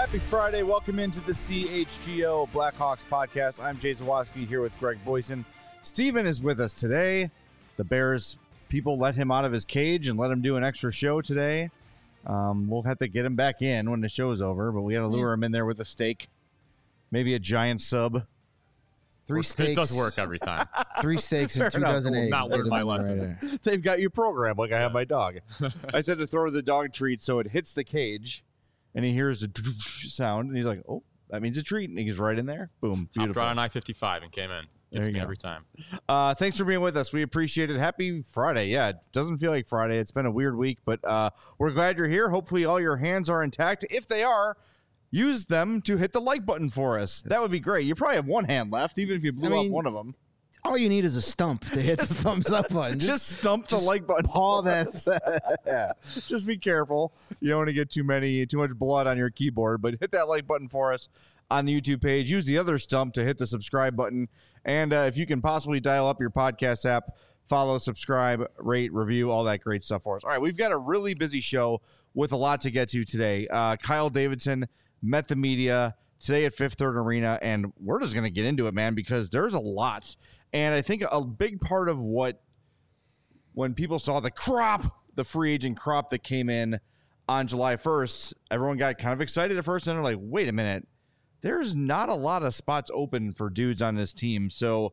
Happy Friday. Welcome into the CHGO Blackhawks podcast. I'm Jay Zawaski here with Greg Boyson. Steven is with us today. The Bears people let him out of his cage and let him do an extra show today. We'll have to get him back in when the show's over, but we got to lure him in there with a steak, maybe a giant sub. 3 steaks. It does work every time. 3 steaks and 2 dozen eggs. Not learned my lesson. Right. They've got you programmed like I have my dog. I said to throw the dog treat so it hits the cage, and he hears the sound, and he's like, oh, that means a treat. And he goes right in there. Boom. Beautiful. Hopped on I-55 and came in. Gets me every time. Thanks for being with us. We appreciate it. Happy Friday. Yeah, it doesn't feel like Friday. It's been a weird week, but we're glad you're here. Hopefully all your hands are intact. If they are, use them to hit the like button for us. That would be great. You probably have one hand left, even if you blew off one of them. All you need is a stump to hit the thumbs up button. Just stump the like button. Paw that. Yeah. Just be careful. You don't want to get too much blood on your keyboard, but hit that like button for us on the YouTube page. Use the other stump to hit the subscribe button. And if you can possibly dial up your podcast app, follow, subscribe, rate, review, all that great stuff for us. All right, we've got a really busy show with a lot to get to today. Kyle Davidson met the media today at Fifth Third Arena, and we're just going to get into it, man, because there's a lot. And I think a big part of when people saw the free agent crop that came in on July 1st, everyone got kind of excited at first, and they're like, wait a minute, there's not a lot of spots open for dudes on this team. So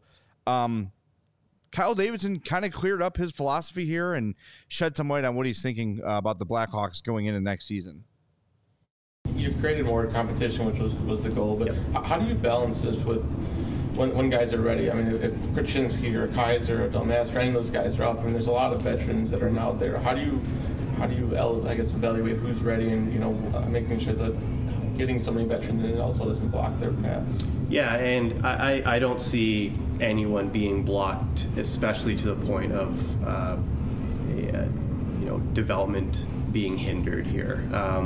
Kyle Davidson kind of cleared up his philosophy here and shed some light on what he's thinking about the Blackhawks going into next season. You've created more competition, which was the goal, but how do you balance this with when guys are ready? I mean, if Krasinski or Kaiser or Delmas or any of those guys are up, I mean, there's a lot of veterans that are out there. How do you evaluate who's ready and, making sure that getting so many veterans in also doesn't block their paths? Yeah, and I don't see anyone being blocked, especially to the point of development being hindered here.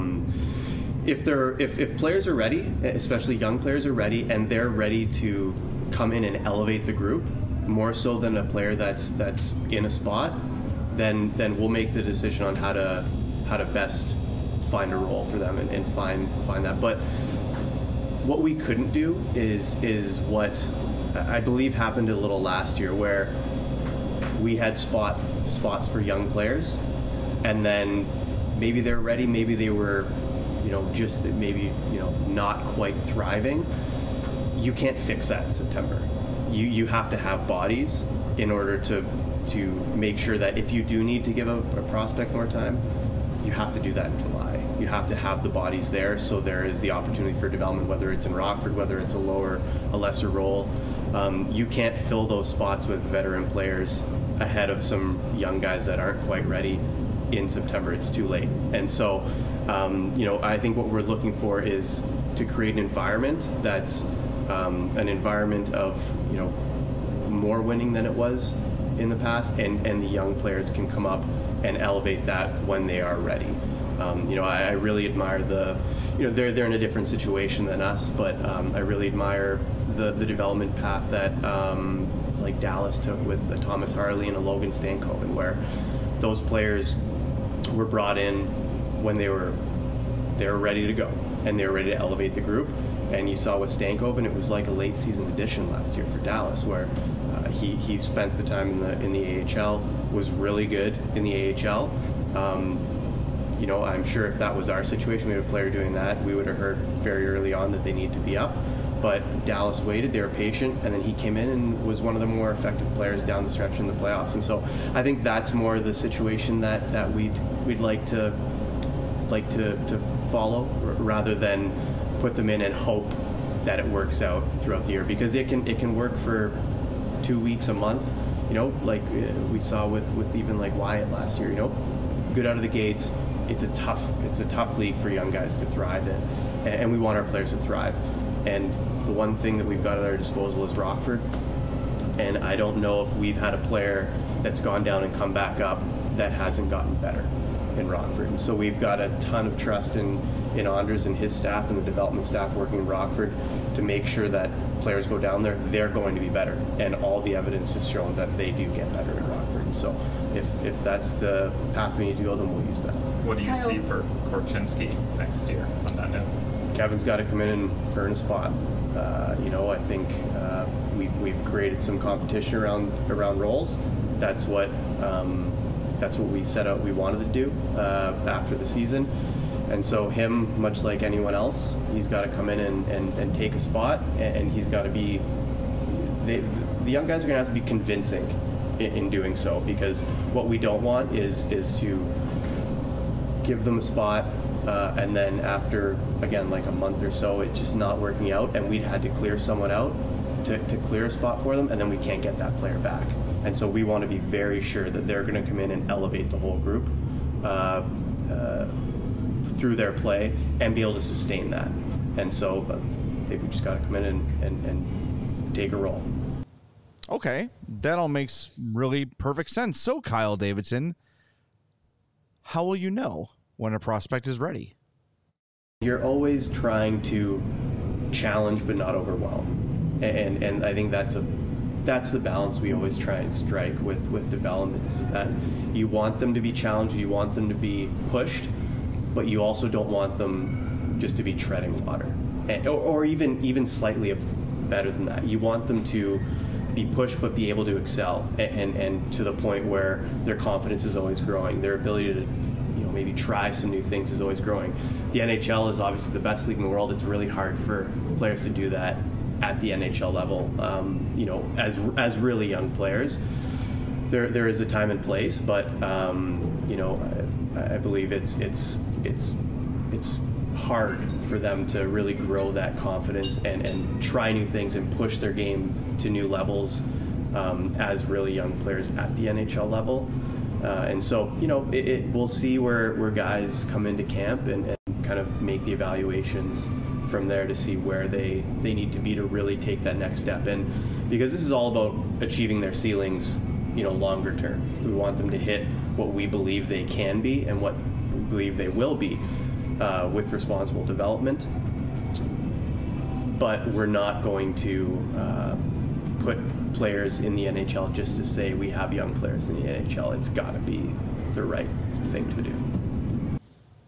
If players are ready, especially young players are ready, and they're ready to come in and elevate the group more so than a player that's in a spot, then we'll make the decision on how to best find a role for them and find that. But what we couldn't do is what I believe happened a little last year, where we had spots for young players, and then maybe they're ready, maybe they were not quite thriving. You can't fix that in September. You have to have bodies in order to make sure that if you do need to give a prospect more time, you have to do that in July. You have to have the bodies there, so there is the opportunity for development, whether it's in Rockford, whether it's a lesser role. You can't fill those spots with veteran players ahead of some young guys that aren't quite ready in September. It's too late. And so I think what we're looking for is to create an environment that's an environment of more winning than it was in the past, and the young players can come up and elevate that when they are ready. I really admire they're in a different situation than us, but I really admire the development path that like Dallas took with Thomas Harley and a Logan Stankoven, where those players were brought in when they were ready to go and they were ready to elevate the group. And you saw with Stankoven, it was like a late season addition last year for Dallas, where he spent the time in the AHL, was really good in the AHL. I'm sure if that was our situation, we had a player doing that, we would have heard very early on that they need to be up. But Dallas waited, they were patient, and then he came in and was one of the more effective players down the stretch in the playoffs. And so I think that's more the situation that we'd like to follow, rather than put them in and hope that it works out throughout the year, because it can work for 2 weeks, a month, like we saw with even like Wyatt last year, good out of the gates. It's a tough league for young guys to thrive in, and we want our players to thrive. And the one thing that we've got at our disposal is Rockford, and I don't know if we've had a player that's gone down and come back up that hasn't gotten better in Rockford. And so we've got a ton of trust in Anders and his staff and the development staff working in Rockford to make sure that players go down there, they're going to be better. And all the evidence has shown that they do get better in Rockford. And so if that's the path we need to go, then we'll use that. What do you see for Korchinski next year on that note? Kevin's got to come in and earn a spot. I think we've created some competition around roles. That's what we set out we wanted to do after the season. And so him, much like anyone else, he's got to come in and take a spot, and he's got to be. The young guys are going to have to be convincing in doing so, because what we don't want is to give them a spot and then after, again, like a month or so, it's just not working out, and we'd had to clear someone out to clear a spot for them, and then we can't get that player back. And so we want to be very sure that they're going to come in and elevate the whole group through their play and be able to sustain that. And so they've just got to come in and take a role. Okay, that all makes really perfect sense. So, Kyle Davidson, how will you know when a prospect is ready? You're always trying to challenge but not overwhelm, and I think that's the balance we always try and strike with development, is that you want them to be challenged, you want them to be pushed, but you also don't want them just to be treading water, or even slightly better than that. You want them to be pushed but be able to excel, and to the point where their confidence is always growing, their ability to maybe try some new things is always growing. The NHL is obviously the best league in the world. It's really hard for players to do that at the NHL level. As really young players, there is a time and place, but I believe it's hard for them to really grow that confidence and try new things and push their game to new levels as really young players at the NHL level. And so, we'll see where guys come into camp and kind of make the evaluations from there to see where they need to be to really take that next step. And because this is all about achieving their ceilings, longer term. We want them to hit what we believe they can be and what we believe they will be with responsible development. But we're not going to put players in the NHL just to say we have young players in the NHL. It's got to be the right thing to do.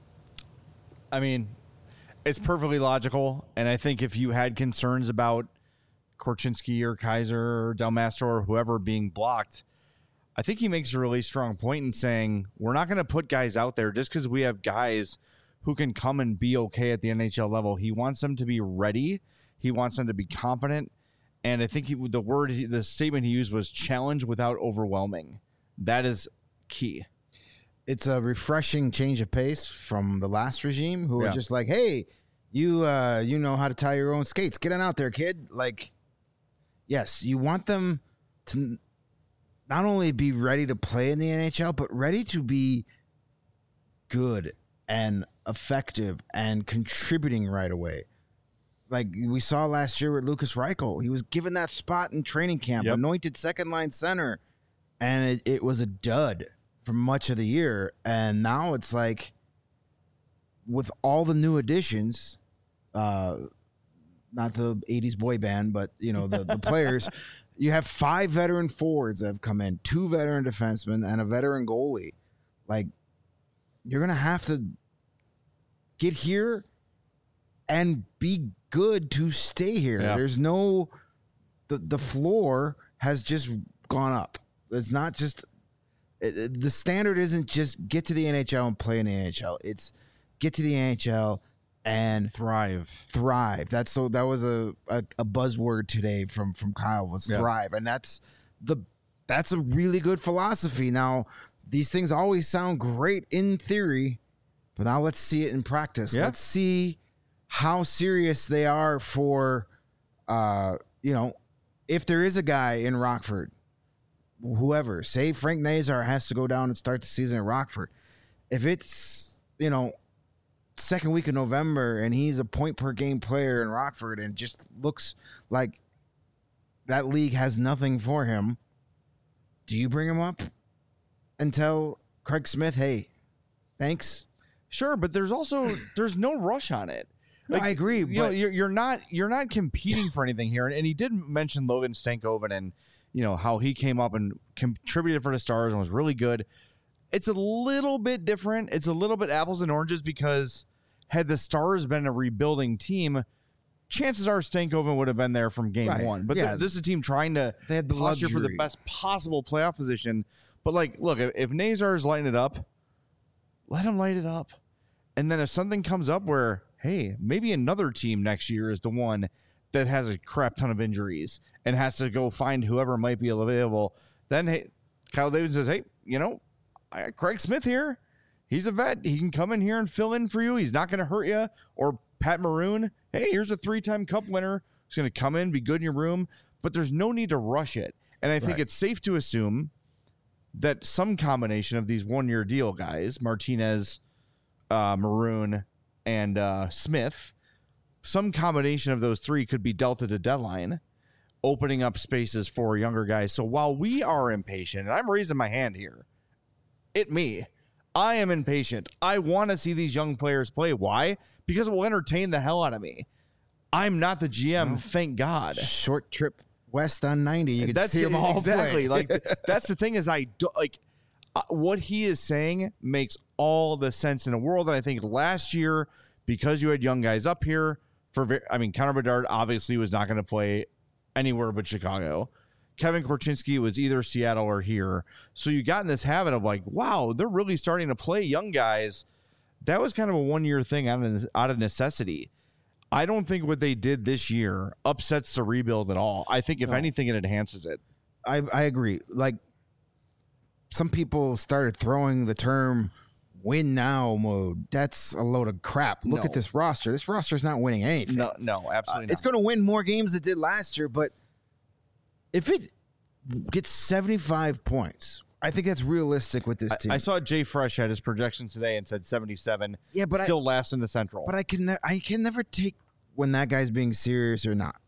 I mean, it's perfectly logical, and I think if you had concerns about Korchinski or Kaiser or Del Mastro or whoever being blocked, I think he makes a really strong point in saying we're not going to put guys out there just because we have guys who can come and be okay at the NHL level. He wants them to be ready. He wants them to be confident. And I think the statement he used was challenge without overwhelming. That is key. It's a refreshing change of pace from the last regime, who were just like, hey, you know how to tie your own skates. Get on out there, kid. Like, yes, you want them to not only be ready to play in the NHL, but ready to be good and effective and contributing right away. Like we saw last year with Lucas Reichel. He was given that spot in training camp, anointed second-line center, and it was a dud for much of the year. And now it's like, with all the new additions, not the 80s boy band, but, the players, you have 5 veteran forwards that have come in, 2 veteran defensemen, and a veteran goalie. Like, you're going to have to get here and be good to stay here. Yeah. There's no, the floor has just gone up. It's not just, the standard isn't just get to the NHL and play in the NHL. It's get to the NHL and thrive. That was a buzzword today from Kyle, was thrive. And that's a really good philosophy. Now, these things always sound great in theory, but now let's see it in practice. Let's see how serious they are for, if there is a guy in Rockford, whoever, say Frank Nazar has to go down and start the season at Rockford. If it's, second week of November and he's a point per game player in Rockford and just looks like that league has nothing for him, do you bring him up and tell Craig Smith, hey, thanks? Sure, but there's no rush on it. Like, I agree. But you're not competing for anything here. And he did mention Logan Stankoven and how he came up and contributed for the Stars and was really good. It's a little bit different. It's a little bit apples and oranges because, had the Stars been a rebuilding team, chances are Stankoven would have been there from game one. But this is a team trying to posture for the best possible playoff position. But, like, look, if Nazar's lighting it up, let him light it up. And then if something comes up where, hey, maybe another team next year is the one that has a crap ton of injuries and has to go find whoever might be available, then, hey, Kyle Davidson says, hey, you know, I got Craig Smith here. He's a vet. He can come in here and fill in for you. He's not going to hurt you. Or Pat Maroon, hey, here's a 3-time Cup winner. He's going to come in, be good in your room. But there's no need to rush it. And I think it's safe to assume that some combination of these one-year deal guys, Martinez, Maroon, and Smith, some combination of those three could be dealt at a deadline, opening up spaces for younger guys. So while we are impatient, and I'm raising my hand here, I am impatient. I want to see these young players play. Why? Because it will entertain the hell out of me. I'm not the GM, thank God. Short trip west on 90. You can see them all exactly. play. Like, that's the thing is what he is saying makes all the sense in the world. And I think last year, because you had young guys up here, Connor Bedard obviously was not going to play anywhere but Chicago. Kevin Korchinski was either Seattle or here. So you got in this habit of like, wow, they're really starting to play young guys. That was kind of a one-year thing out of necessity. I don't think what they did this year upsets the rebuild at all. I think, if anything, it enhances it. I agree. Like, some people started throwing the term win now mode. That's a load of crap. Look at this roster. This roster's not winning anything. No, absolutely not. It's going to win more games than it did last year, but if it gets 75 points, I think that's realistic with this team. I saw Jay Fresh had his projections today and said 77. Yeah, but still last in the Central. But I can never take when that guy's being serious or not.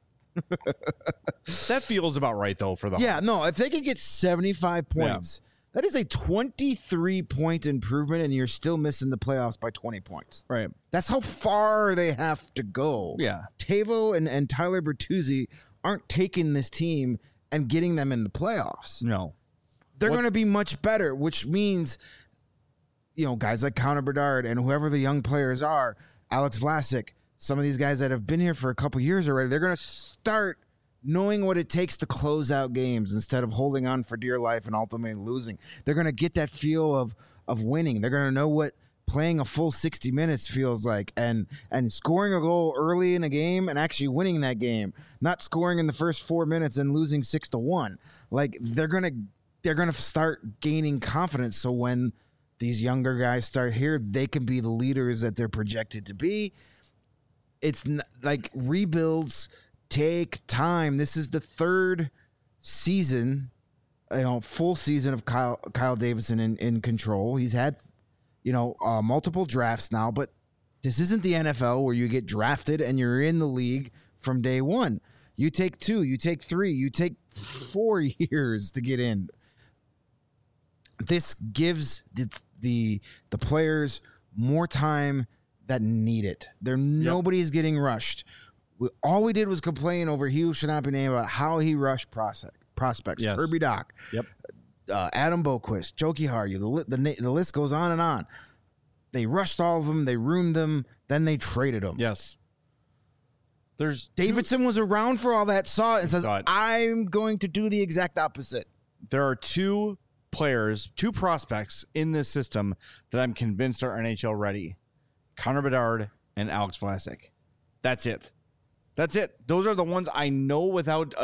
That feels about right, though, for the Hawks. No, if they could get 75 points, that is a 23-point improvement, and you're still missing the playoffs by 20 points. Right. That's how far they have to go. Yeah. Tavo and Tyler Bertuzzi aren't taking this team and getting them in the playoffs. No. They're going to be much better, which means, you know, guys like Connor Bedard and whoever the young players are, Alex Vlasic, some of these guys that have been here for a couple years already, they're going to start knowing what it takes to close out games instead of holding on for dear life and ultimately losing. They're going to get that feel of winning. They're going to know what playing a full 60 minutes feels like and scoring a goal early in a game and actually winning that game, not scoring in the first 4 minutes and losing 6-1. Like, they're going to start gaining confidence. So when these younger guys start here, they can be the leaders that they're projected to be. It's like rebuilds take time. This is the third season, full season of Kyle Davidson in control. He's had, multiple drafts now, but this isn't the NFL where you get drafted and you're in the league from day one. You take 2, you take 3, you take 4 years to get in. This gives the players more time that need it. Nobody's getting rushed. All we did was complain over Hugh should not be named about how he rushed prospects. Yes. Kirby Doc, Adam Boquist, Joe Kiharyu. The list goes on and on. They rushed all of them. They ruined them. Then they traded them. Yes. Davidson was around for all that, saw it, and says, I'm going to do the exact opposite. There are 2 prospects in this system that I'm convinced are NHL ready. Connor Bedard and Alex Vlasic. That's it. Those are the ones I know without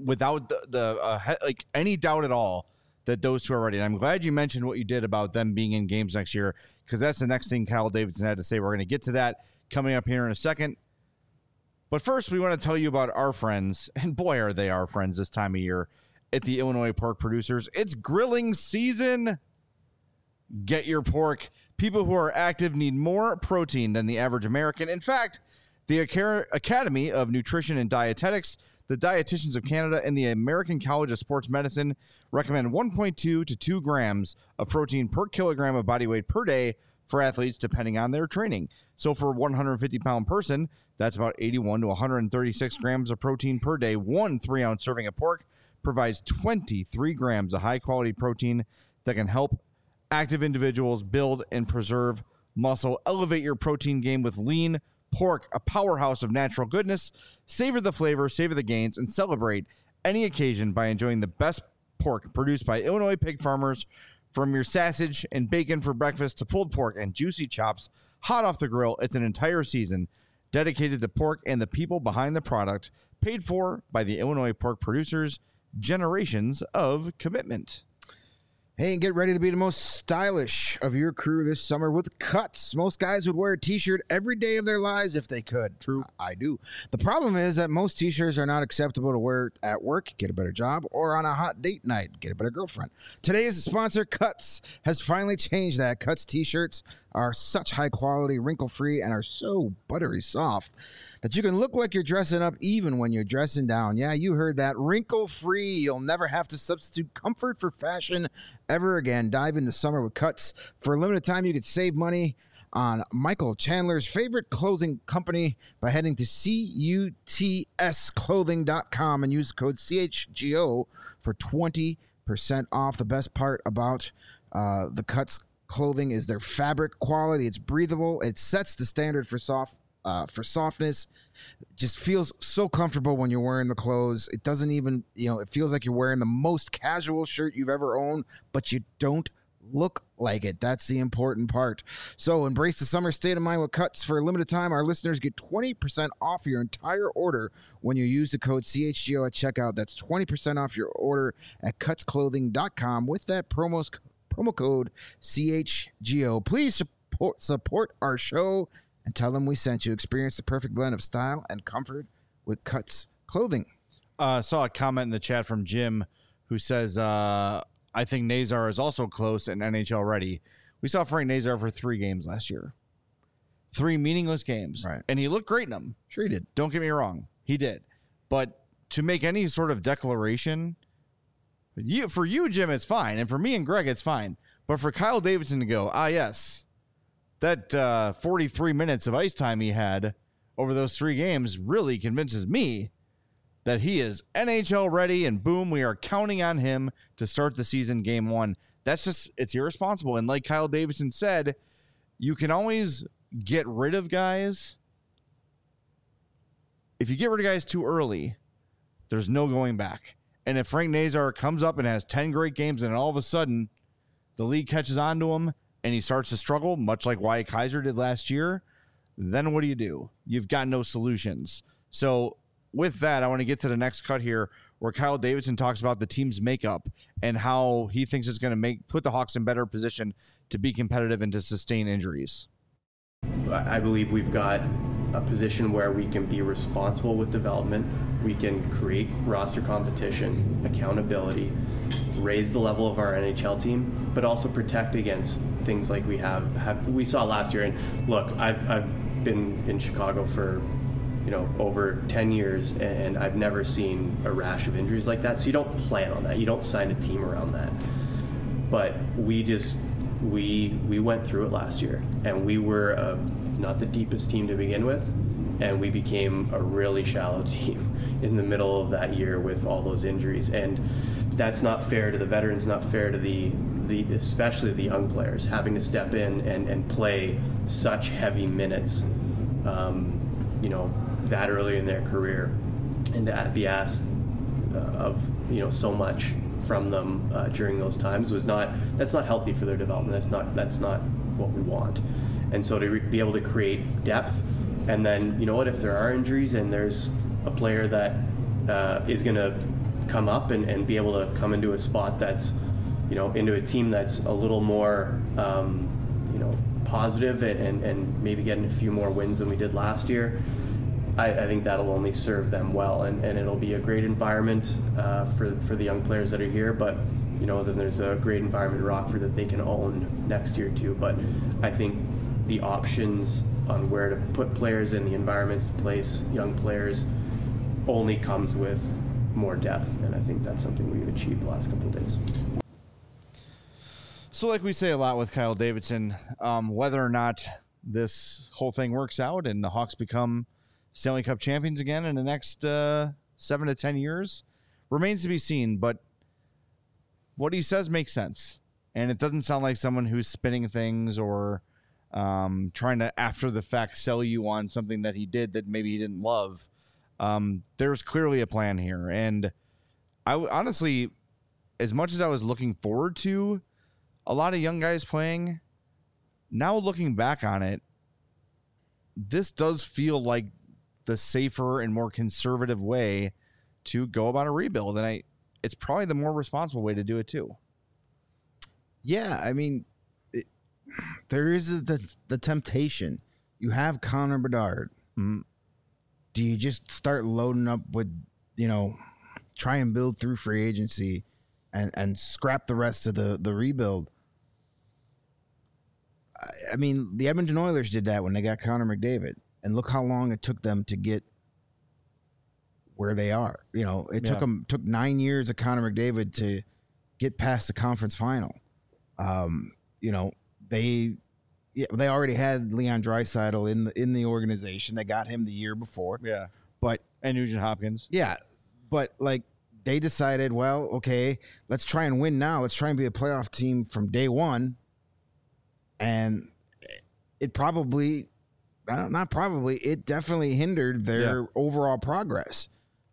any doubt at all that those 2 are ready. And I'm glad you mentioned what you did about them being in games next year, because that's the next thing Kyle Davidson had to say. We're going to get to that coming up here in a second. But first, we want to tell you about our friends, and boy, are they our friends this time of year at the Illinois Pork Producers. It's grilling season. Get your pork. People who are active need more protein than the average American. In fact, the Academy of Nutrition and Dietetics, the Dietitians of Canada, and the American College of Sports Medicine recommend 1.2 to 2 grams of protein per kilogram of body weight per day for athletes, depending on their training. So for a 150-pound person, that's about 81 to 136 grams of protein per day. 1 3-ounce serving of pork provides 23 grams of high-quality protein that can help active individuals build and preserve muscle. Elevate your protein game with lean pork, a powerhouse of natural goodness. Savor the flavor, savor the gains, and celebrate any occasion by enjoying the best pork produced by Illinois pig farmers. From your sausage and bacon for breakfast to pulled pork and juicy chops hot off the grill, it's an entire season dedicated to pork and the people behind the product, paid for by the Illinois pork producers. Generations of commitment. Hey, and get ready to be the most stylish of your crew this summer with Cuts. Most guys would wear a t-shirt every day of their lives if they could. True. I do. The problem is that most t-shirts are not acceptable to wear at work, get a better job, or on a hot date night, get a better girlfriend. Today's sponsor, Cuts, has finally changed that. Cuts t-shirts are such high quality, wrinkle-free, and are so buttery soft that you can look like you're dressing up even when you're dressing down. Yeah, you heard that. Wrinkle-free. You'll never have to substitute comfort for fashion ever again. Dive into summer with Cuts. For a limited time, you could save money on Michael Chandler's favorite clothing company by heading to cutsclothing.com and use code CHGO for 20% off. The best part about the Cuts clothing is their fabric quality. It's breathable. It sets the standard for softness. It just feels so comfortable when you're wearing the clothes. It doesn't even, it feels like you're wearing the most casual shirt you've ever owned, but you don't look like it. That's the important part. So embrace the summer state of mind with Cuts. For a limited time, our listeners get 20% off your entire order when you use the code CHGO at checkout. That's 20% off your order at cutsclothing.com with that promo code CHGO. Please support our show and tell them we sent you. Experience the perfect blend of style and comfort with Cuts Clothing. Saw a comment in the chat from Jim who says, I think Nazar is also close and NHL ready. We saw Frank Nazar for 3 games last year. 3 meaningless games. Right. And he looked great in them. Sure he did. Don't get me wrong. He did. But to make any sort of declaration, for you, Jim, it's fine. And for me and Greg, it's fine. But for Kyle Davidson to go, yes, that 43 minutes of ice time he had over those 3 games really convinces me that he is NHL ready, and boom, we are counting on him to start the season game 1. It's irresponsible. And like Kyle Davidson said, you can always get rid of guys. If you get rid of guys too early, there's no going back. And if Frank Nazar comes up and has 10 great games and all of a sudden the league catches on to him and he starts to struggle, much like Wyatt Kaiser did last year, then what do? You've got no solutions. So with that, I want to get to the next cut here where Kyle Davidson talks about the team's makeup and how he thinks it's going to put the Hawks in better position to be competitive and to sustain injuries. I believe we've got a position where we can be responsible with development. We can create roster competition, accountability, raise the level of our NHL team, but also protect against things like we saw last year. And look, I've been in Chicago for over 10 years, and I've never seen a rash of injuries like that. So you don't plan on that. You don't sign a team around that. But we went through it last year, and we were not the deepest team to begin with, and we became a really shallow team in the middle of that year with all those injuries. And that's not fair to the veterans, not fair to the especially the young players, having to step in and play such heavy minutes, that early in their career, and to be asked of so much from them during those times that's not healthy for their development. That's not what we want. And so to be able to create depth, and then if there are injuries and there's a player that is going to come up and be able to come into a spot that's into a team that's a little more positive and maybe getting a few more wins than we did last year, I think that'll only serve them well, and it'll be a great environment for the young players that are here. But then there's a great environment in Rockford that they can own next year too. But I think the options on where to put players in the environments to place young players only comes with more depth, and I think that's something we've achieved the last couple of days. So like we say a lot with Kyle Davidson, whether or not this whole thing works out and the Hawks become Stanley Cup champions again in the next 7 to 10 years remains to be seen. But what he says makes sense. And it doesn't sound like someone who's spinning things or trying to after the fact sell you on something that he did that maybe he didn't love. There's clearly a plan here, and I honestly, as much as I was looking forward to a lot of young guys playing, now looking back on it, this does feel like the safer and more conservative way to go about a rebuild, and it's probably the more responsible way to do it too. Yeah, I mean, there is the temptation. You have Connor Bedard. Mm-hmm. Do you just start loading up with, try and build through free agency and scrap the rest of the rebuild? I mean, the Edmonton Oilers did that when they got Connor McDavid, and look how long it took them to get where they are. Took 9 years of Connor McDavid to get past the conference final. They already had Leon Draisaitl in the organization. They got him the year before. Yeah, but and Nugent Hopkins. Yeah, but they decided, well, okay, let's try and win now. Let's try and be a playoff team from day one. And it definitely hindered their overall progress.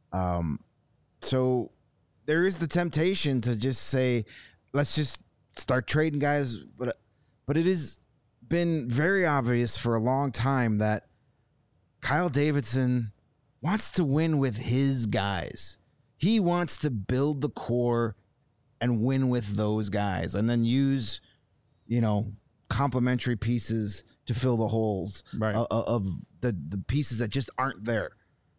So there is the temptation to just say, let's just start trading guys. But it has been very obvious for a long time that Kyle Davidson wants to win with his guys. He wants to build the core and win with those guys, and then use, complementary pieces to fill the holes of the pieces that just aren't there.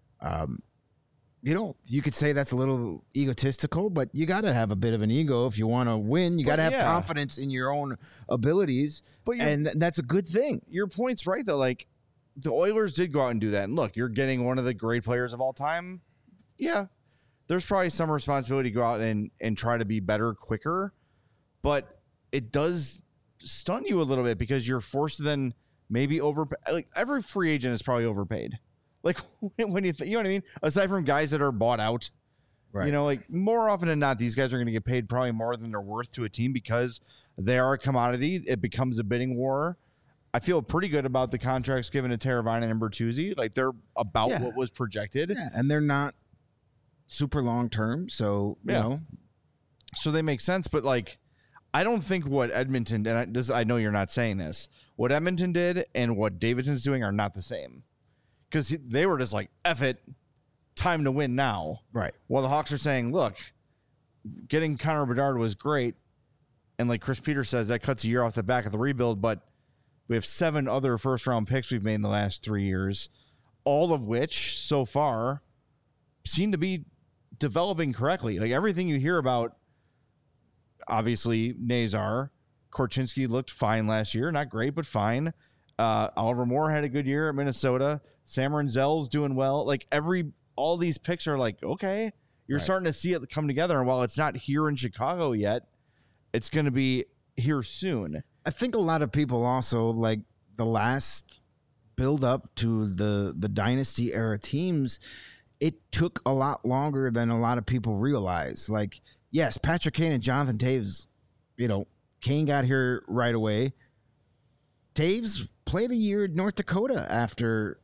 You could say that's a little egotistical, but you got to have a bit of an ego if you want to win. You got to have confidence in your own abilities, and that's a good thing. Your point's right, though. Like, the Oilers did go out and do that. And look, you're getting one of the great players of all time. Yeah, there's probably some responsibility to go out and try to be better quicker, but it does stun you a little bit because you're forced to then maybe overpay. Like, every free agent is probably overpaid. Like, when you know what I mean? Aside from guys that are bought out, right? More often than not, these guys are going to get paid probably more than they're worth to a team because they are a commodity. It becomes a bidding war. I feel pretty good about the contracts given to Teravainen and Bertuzzi. Like, they're about what was projected. Yeah, and they're not super long term, so you know. So they make sense, but I don't think what Edmonton, and I know you're not saying this, what Edmonton did and what Davidson's doing are not the same. Because they were just like, F it, time to win now. Right. While the Hawks are saying, look, getting Connor Bedard was great. And like Chris Peters says, that cuts a year off the back of the rebuild. But we have 7 other first-round picks we've made in the last 3 years, all of which so far seem to be developing correctly. Like, everything you hear about, obviously, Nazar, Korchinski looked fine last year. Not great, but fine. Oliver Moore had a good year at Minnesota. Sam Renzel's doing well. Like, all these picks are like, okay, you're starting to see it come together. And while it's not here in Chicago yet, it's going to be here soon. I think a lot of people also, like, the last build up to the dynasty era teams, it took a lot longer than a lot of people realize. Like, yes, Patrick Kane and Jonathan Toews, Kane got here right away. Toews played a year in North Dakota after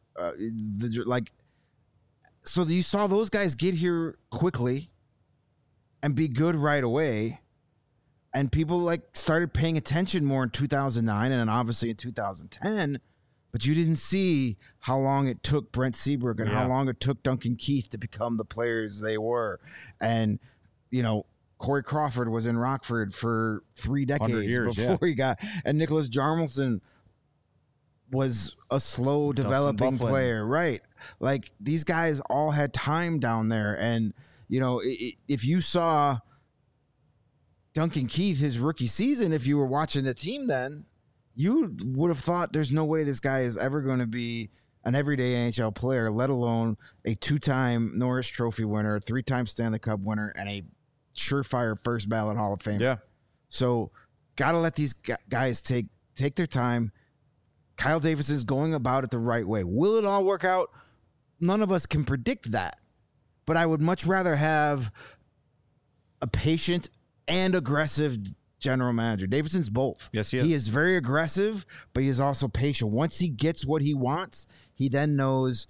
so you saw those guys get here quickly and be good right away, and people started paying attention more in 2009 and then obviously in 2010. But you didn't see how long it took Brent Seabrook and how long it took Duncan Keith to become the players they were, and Corey Crawford was in Rockford for 3 decades before he got, and Nicholas Jarmelson was a slow developing player, right? Like, these guys all had time down there, and if you saw Duncan Keith his rookie season, if you were watching the team then, you would have thought there's no way this guy is ever going to be an everyday NHL player, let alone a 2-time Norris Trophy winner, a 3-time Stanley Cup winner, and a surefire first ballot Hall of Famer. Yeah. So got to let these guys take their time. Kyle Davidson is going about it the right way. Will it all work out? None of us can predict that. But I would much rather have a patient and aggressive general manager. Davidson's both. Yes, he is. He is very aggressive, but he is also patient. Once he gets what he wants, he then knows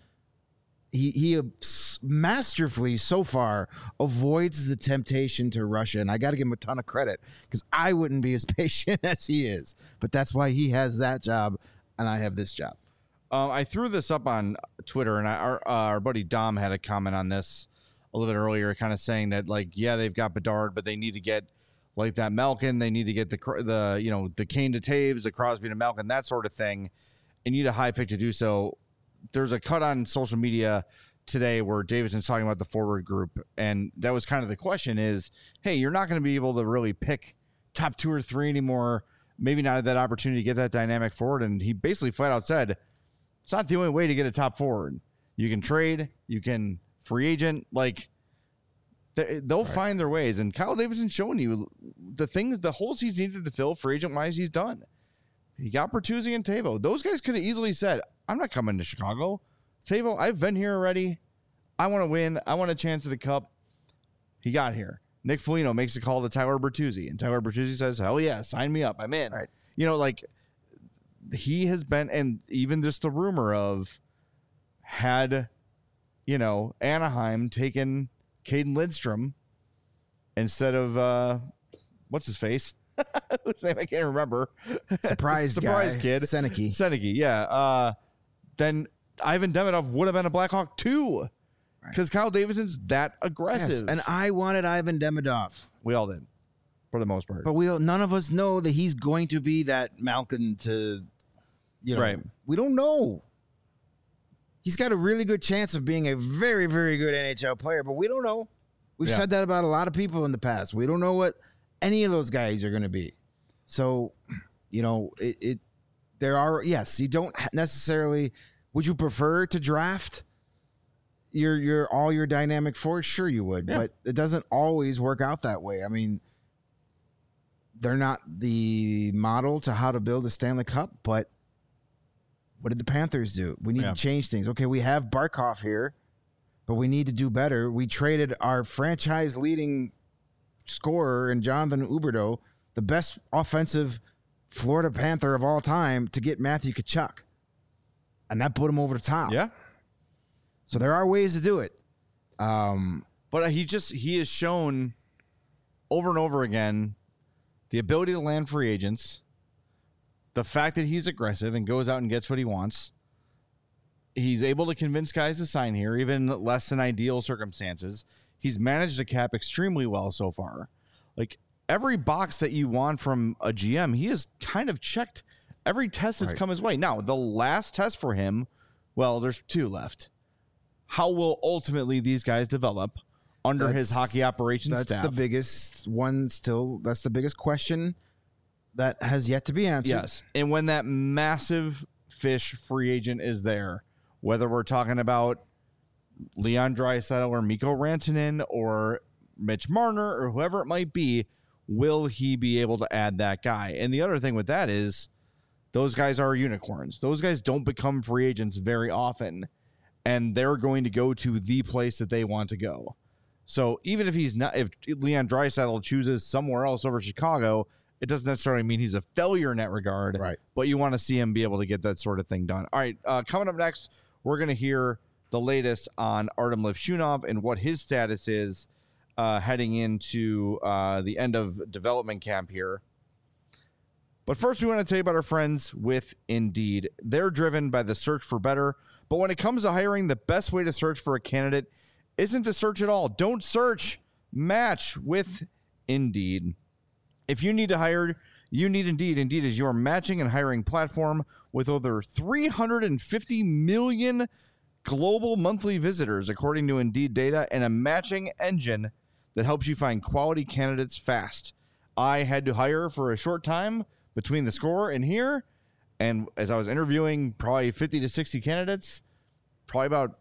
he masterfully so far avoids the temptation to Russia. And I got to give him a ton of credit because I wouldn't be as patient as he is. But that's why he has that job and I have this job. I threw this up on Twitter, and our buddy Dom had a comment on this a little bit earlier, kind of saying that, like, yeah, they've got Bedard, but they need to get like that Malkin. They need to get the Kane to Taves, the Crosby to Malkin, that sort of thing. And need a high pick to do so. There's a cut on social media today where Davidson's talking about the forward group, and that was kind of the question is, hey, you're not going to be able to really pick top 2 or 3 anymore. Maybe not that opportunity to get that dynamic forward. And he basically flat out said, it's not the only way to get a top forward. You can trade, you can free agent, like they'll find their ways. And Kyle Davidson's showing you the holes he's needed to fill free agent wise, he's done. He got Bertuzzi and Teuvo. Those guys could have easily said, I'm not coming to Chicago. Teuvo, I've been here already. I want to win. I want a chance at the cup. He got here. Nick Foligno makes a call to Tyler Bertuzzi, and Tyler Bertuzzi says, hell yeah, sign me up. I'm in. Right. Like he has been, and even just the rumor of had, Anaheim taken Caden Lidstrom instead of, what's his face? Whose name I can't remember. Surprise kid. Seneke. Yeah. Then Ivan Demidov would have been a Blackhawk too. Because Kyle Davidson's that aggressive. Yes, and I wanted Ivan Demidov. We all did, for the most part. But none of us know that he's going to be that Malkin to, right. We don't know. He's got a really good chance of being a very, very good NHL player, but we don't know. We've said that about a lot of people in the past. We don't know what any of those guys are going to be. So, there are, yes, you don't necessarily, would you prefer to draft all your dynamic force? Sure you would, but it doesn't always work out that way. I mean, they're not the model to how to build a Stanley Cup, but what did the Panthers do? We need to change things. Okay, we have Barkov here, but we need to do better. We traded our franchise leading scorer in Jonathan Huberdeau, the best offensive Florida Panther of all time, to get Matthew Tkachuk. And that put him over the top. Yeah. So there are ways to do it. But he has shown over and over again the ability to land free agents, the fact that he's aggressive and goes out and gets what he wants. He's able to convince guys to sign here, even less than ideal circumstances. He's managed the cap extremely well so far. Like every box that you want from a GM, he has kind of checked every test that's come his way. Now, the last test for him, well, there's 2 left. How will ultimately these guys develop under his hockey operations staff? That's the biggest one still. That's the biggest question that has yet to be answered. Yes. And when that massive fish free agent is there, whether we're talking about Leon Draisaitl or Mikko Rantanen or Mitch Marner or whoever it might be, will he be able to add that guy? And the other thing with that is those guys are unicorns. Those guys don't become free agents very often, and they're going to go to the place that they want to go. So even if if Leon Draisaitl chooses somewhere else over Chicago, it doesn't necessarily mean he's a failure in that regard. Right. But you want to see him be able to get that sort of thing done. All right. Coming up next, we're going to hear the latest on Artem Levshunov and what his status is heading into the end of development camp here. But first, we want to tell you about our friends with Indeed. They're driven by the search for better. But when it comes to hiring, the best way to search for a candidate isn't to search at all. Don't search. Match with Indeed. If you need to hire, you need Indeed. Indeed is your matching and hiring platform with over 350 million global monthly visitors, according to Indeed data, and a matching engine that helps you find quality candidates fast. I had to hire for a short time between the score and here, and as I was interviewing probably 50 to 60 candidates, probably about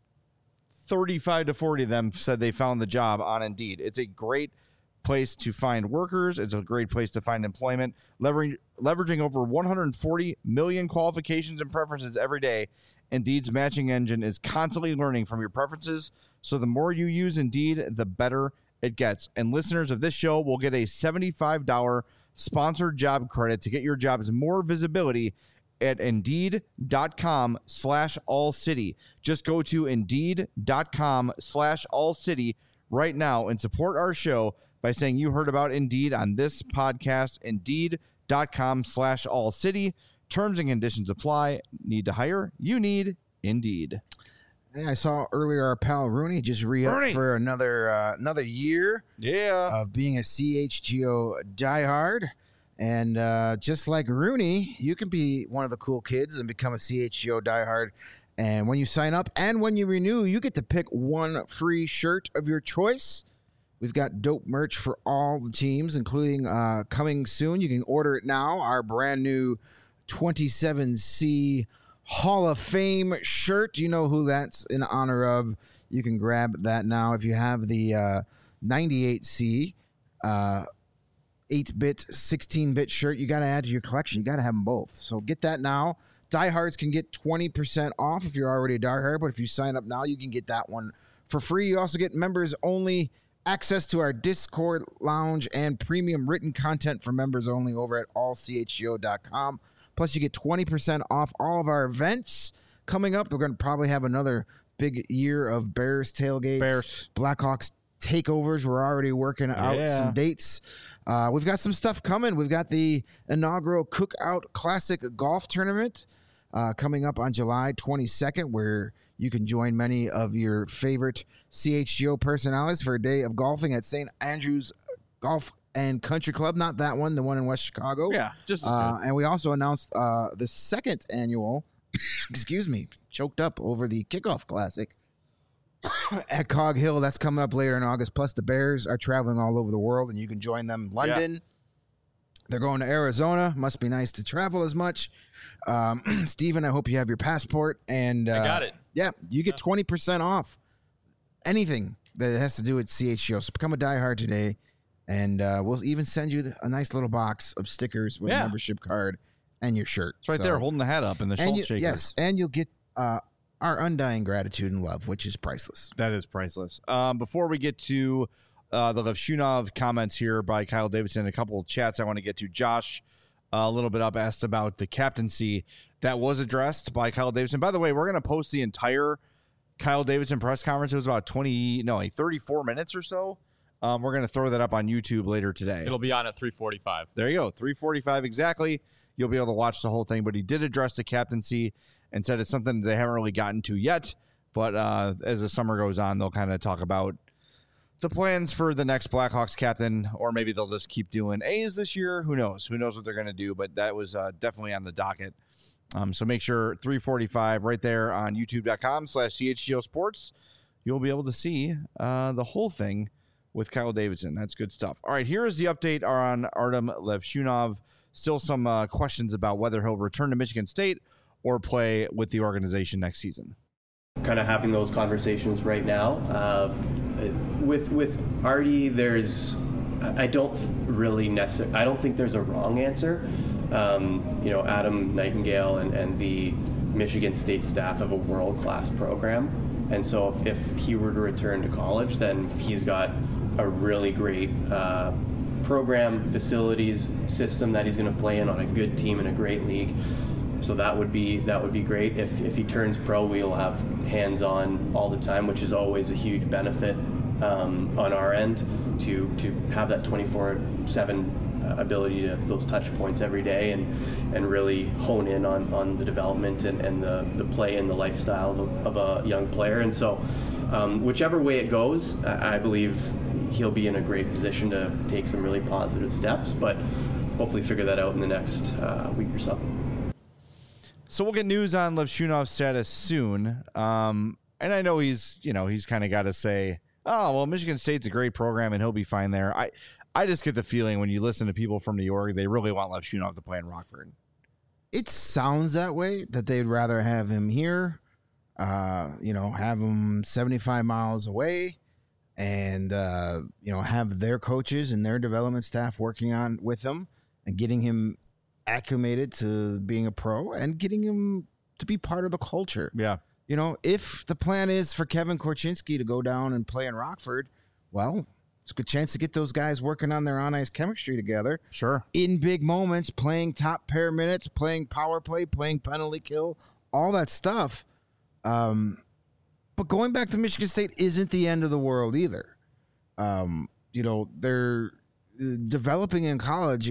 35 to 40 of them said they found the job on Indeed. It's a great place to find workers. It's a great place to find employment. Leveraging over 140 million qualifications and preferences every day, Indeed's matching engine is constantly learning from your preferences. So the more you use Indeed, the better it gets. And listeners of this show will get a $75 sponsored job credit to get your jobs more visibility at Indeed.com/AllCity. Just go to Indeed.com/AllCity right now and support our show by saying you heard about Indeed on this podcast. Indeed.com/AllCity. Terms and conditions apply. Need to hire? You need Indeed. Hey, I saw earlier our pal Rooney just re-up for another year of being a CHGO diehard. And just like Rooney, you can be one of the cool kids and become a CHGO diehard. And when you sign up and when you renew, you get to pick one free shirt of your choice. We've got dope merch for all the teams, including coming soon. You can order it now. Our brand new 27C Hall of Fame shirt. You know who that's in honor of. You can grab that now. If you have the 98C 8-bit, 16-bit shirt, you got to add to your collection. You got to have them both. So get that now. Diehards can get 20% off if you're already a diehard, but if you sign up now, you can get that one for free. You also get members-only access to our Discord lounge and premium written content for members only over at allchgo.com. Plus, you get 20% off all of our events coming up. We're going to probably have another big year of Bears tailgates, Blackhawks takeovers. We're already working out some dates. We've got some stuff coming. We've got the inaugural Cookout Classic Golf Tournament coming up on July 22nd, where you can join many of your favorite CHGO personalities for a day of golfing at St. Andrews Golf and Country Club. Not that one, the one in West Chicago. Yeah, just and we also announced the second annual, excuse me, choked up over the Kickoff Classic at Cog Hill. That's coming up later in August. Plus, the Bears are traveling all over the world, and you can join them in London. Yeah. They're going to Arizona. Must be nice to travel as much. Steven, I hope you have your passport. And I got it. Yeah, you get 20% off anything that has to do with CHGO. So become a diehard today. And we'll even send you a nice little box of stickers with a membership card and your shirt. It's right there holding the hat up in the Schultz shaker. Yes, and you'll get our undying gratitude and love, which is priceless. That is priceless. Before we get to the Levshunov comments here by Kyle Davidson, a couple of chats I want to get to. Josh, a little bit up, asked about the captaincy that was addressed by Kyle Davidson. By the way, we're going to post the entire Kyle Davidson press conference. It was about 34 minutes or so. We're going to throw that up on YouTube later today. It'll be on at 3:45. There you go, 3:45 exactly. You'll be able to watch the whole thing. But he did address the captaincy and said it's something they haven't really gotten to yet. But as the summer goes on, they'll kind of talk about the plans for the next Blackhawks captain, or maybe they'll just keep doing A's this year. Who knows? Who knows what they're going to do? But that was definitely on the docket. So make sure 3:45 right there on youtube.com/CHGO Sports. You'll be able to see the whole thing with Kyle Davidson. That's good stuff. All right, here is the update on Artem Levshunov. Still some questions about whether he'll return to Michigan State or play with the organization next season. Kind of having those conversations right now. With Artie, I don't think there's a wrong answer. Adam Nightingale and the Michigan State staff have a world-class program. And so if he were to return to college, then he's got a really great program, facilities, system that he's going to play in on a good team in a great league. So that would be great. If he turns pro, we'll have hands-on all the time, which is always a huge benefit on our end to have that 24/7 ability to have those touch points every day and really hone in on the development and the play and the lifestyle of a young player. And so whichever way it goes, I believe he'll be in a great position to take some really positive steps, but hopefully figure that out in the next week or so. So we'll get news on Levshunov's status soon. And I know he's kind of got to say, oh, well, Michigan State's a great program and he'll be fine there. I just get the feeling when you listen to people from New York, they really want Levshunov to play in Rockford. It sounds that way, that they'd rather have him here, have him 75 miles away and, have their coaches and their development staff working on with him and getting him acclimated to being a pro and getting him to be part of the culture. Yeah. If the plan is for Kevin Korchinski to go down and play in Rockford, well, It's a good chance to get those guys working on their on-ice chemistry together. Sure. In big moments, playing top pair minutes, playing power play, playing penalty kill, all that stuff. But going back to Michigan State isn't the end of the world either. They're developing in college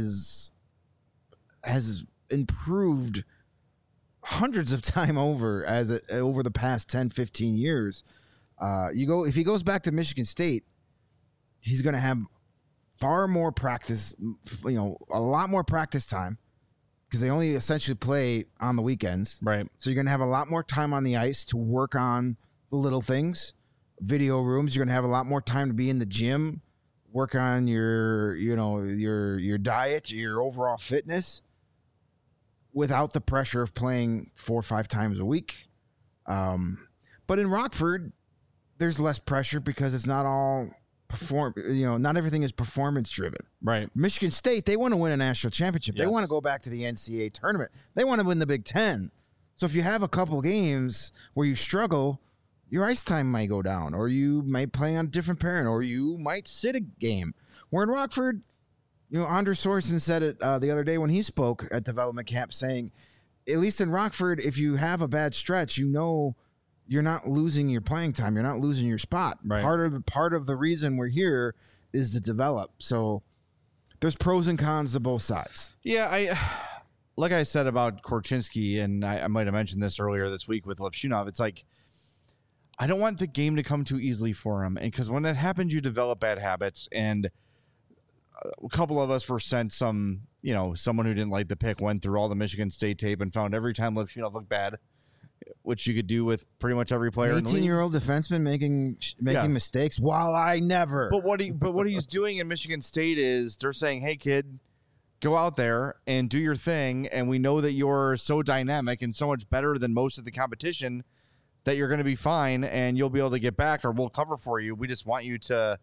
has improved hundreds of time over over the past 10, 15 years. If he goes back to Michigan State, he's going to have far more practice, a lot more practice time because they only essentially play on the weekends. Right. So you're going to have a lot more time on the ice to work on the little things. Video rooms, you're going to have a lot more time to be in the gym, work on your diet, your overall fitness without the pressure of playing 4 or 5 times a week. But in Rockford, there's less pressure because it's not all not everything is performance driven. Right. Michigan State, they want to win a national championship. Yes. They want to go back to the NCAA tournament. They want to win the Big Ten. So if you have a couple games where you struggle, your ice time might go down, or you might play on a different parent, or you might sit a game. Where in Rockford, Andre Sorensen said it the other day when he spoke at development camp, saying, at least in Rockford, if you have a bad stretch, you're not losing your playing time. You're not losing your spot. Right. Part of the reason we're here is to develop. So there's pros and cons to both sides. Yeah, like I said about Korchinski, and I might have mentioned this earlier this week with Levshunov, it's like, I don't want the game to come too easily for him. And because when that happens, you develop bad habits. And a couple of us were sent someone who didn't like the pick, went through all the Michigan State tape and found every time Levshunov looked bad, which you could do with pretty much every player. 18-year-old defenseman making mistakes while I never. But what he's doing in Michigan State is they're saying, hey, kid, go out there and do your thing. And we know that you're so dynamic and so much better than most of the competition that you're going to be fine and you'll be able to get back, or we'll cover for you. We just want you to,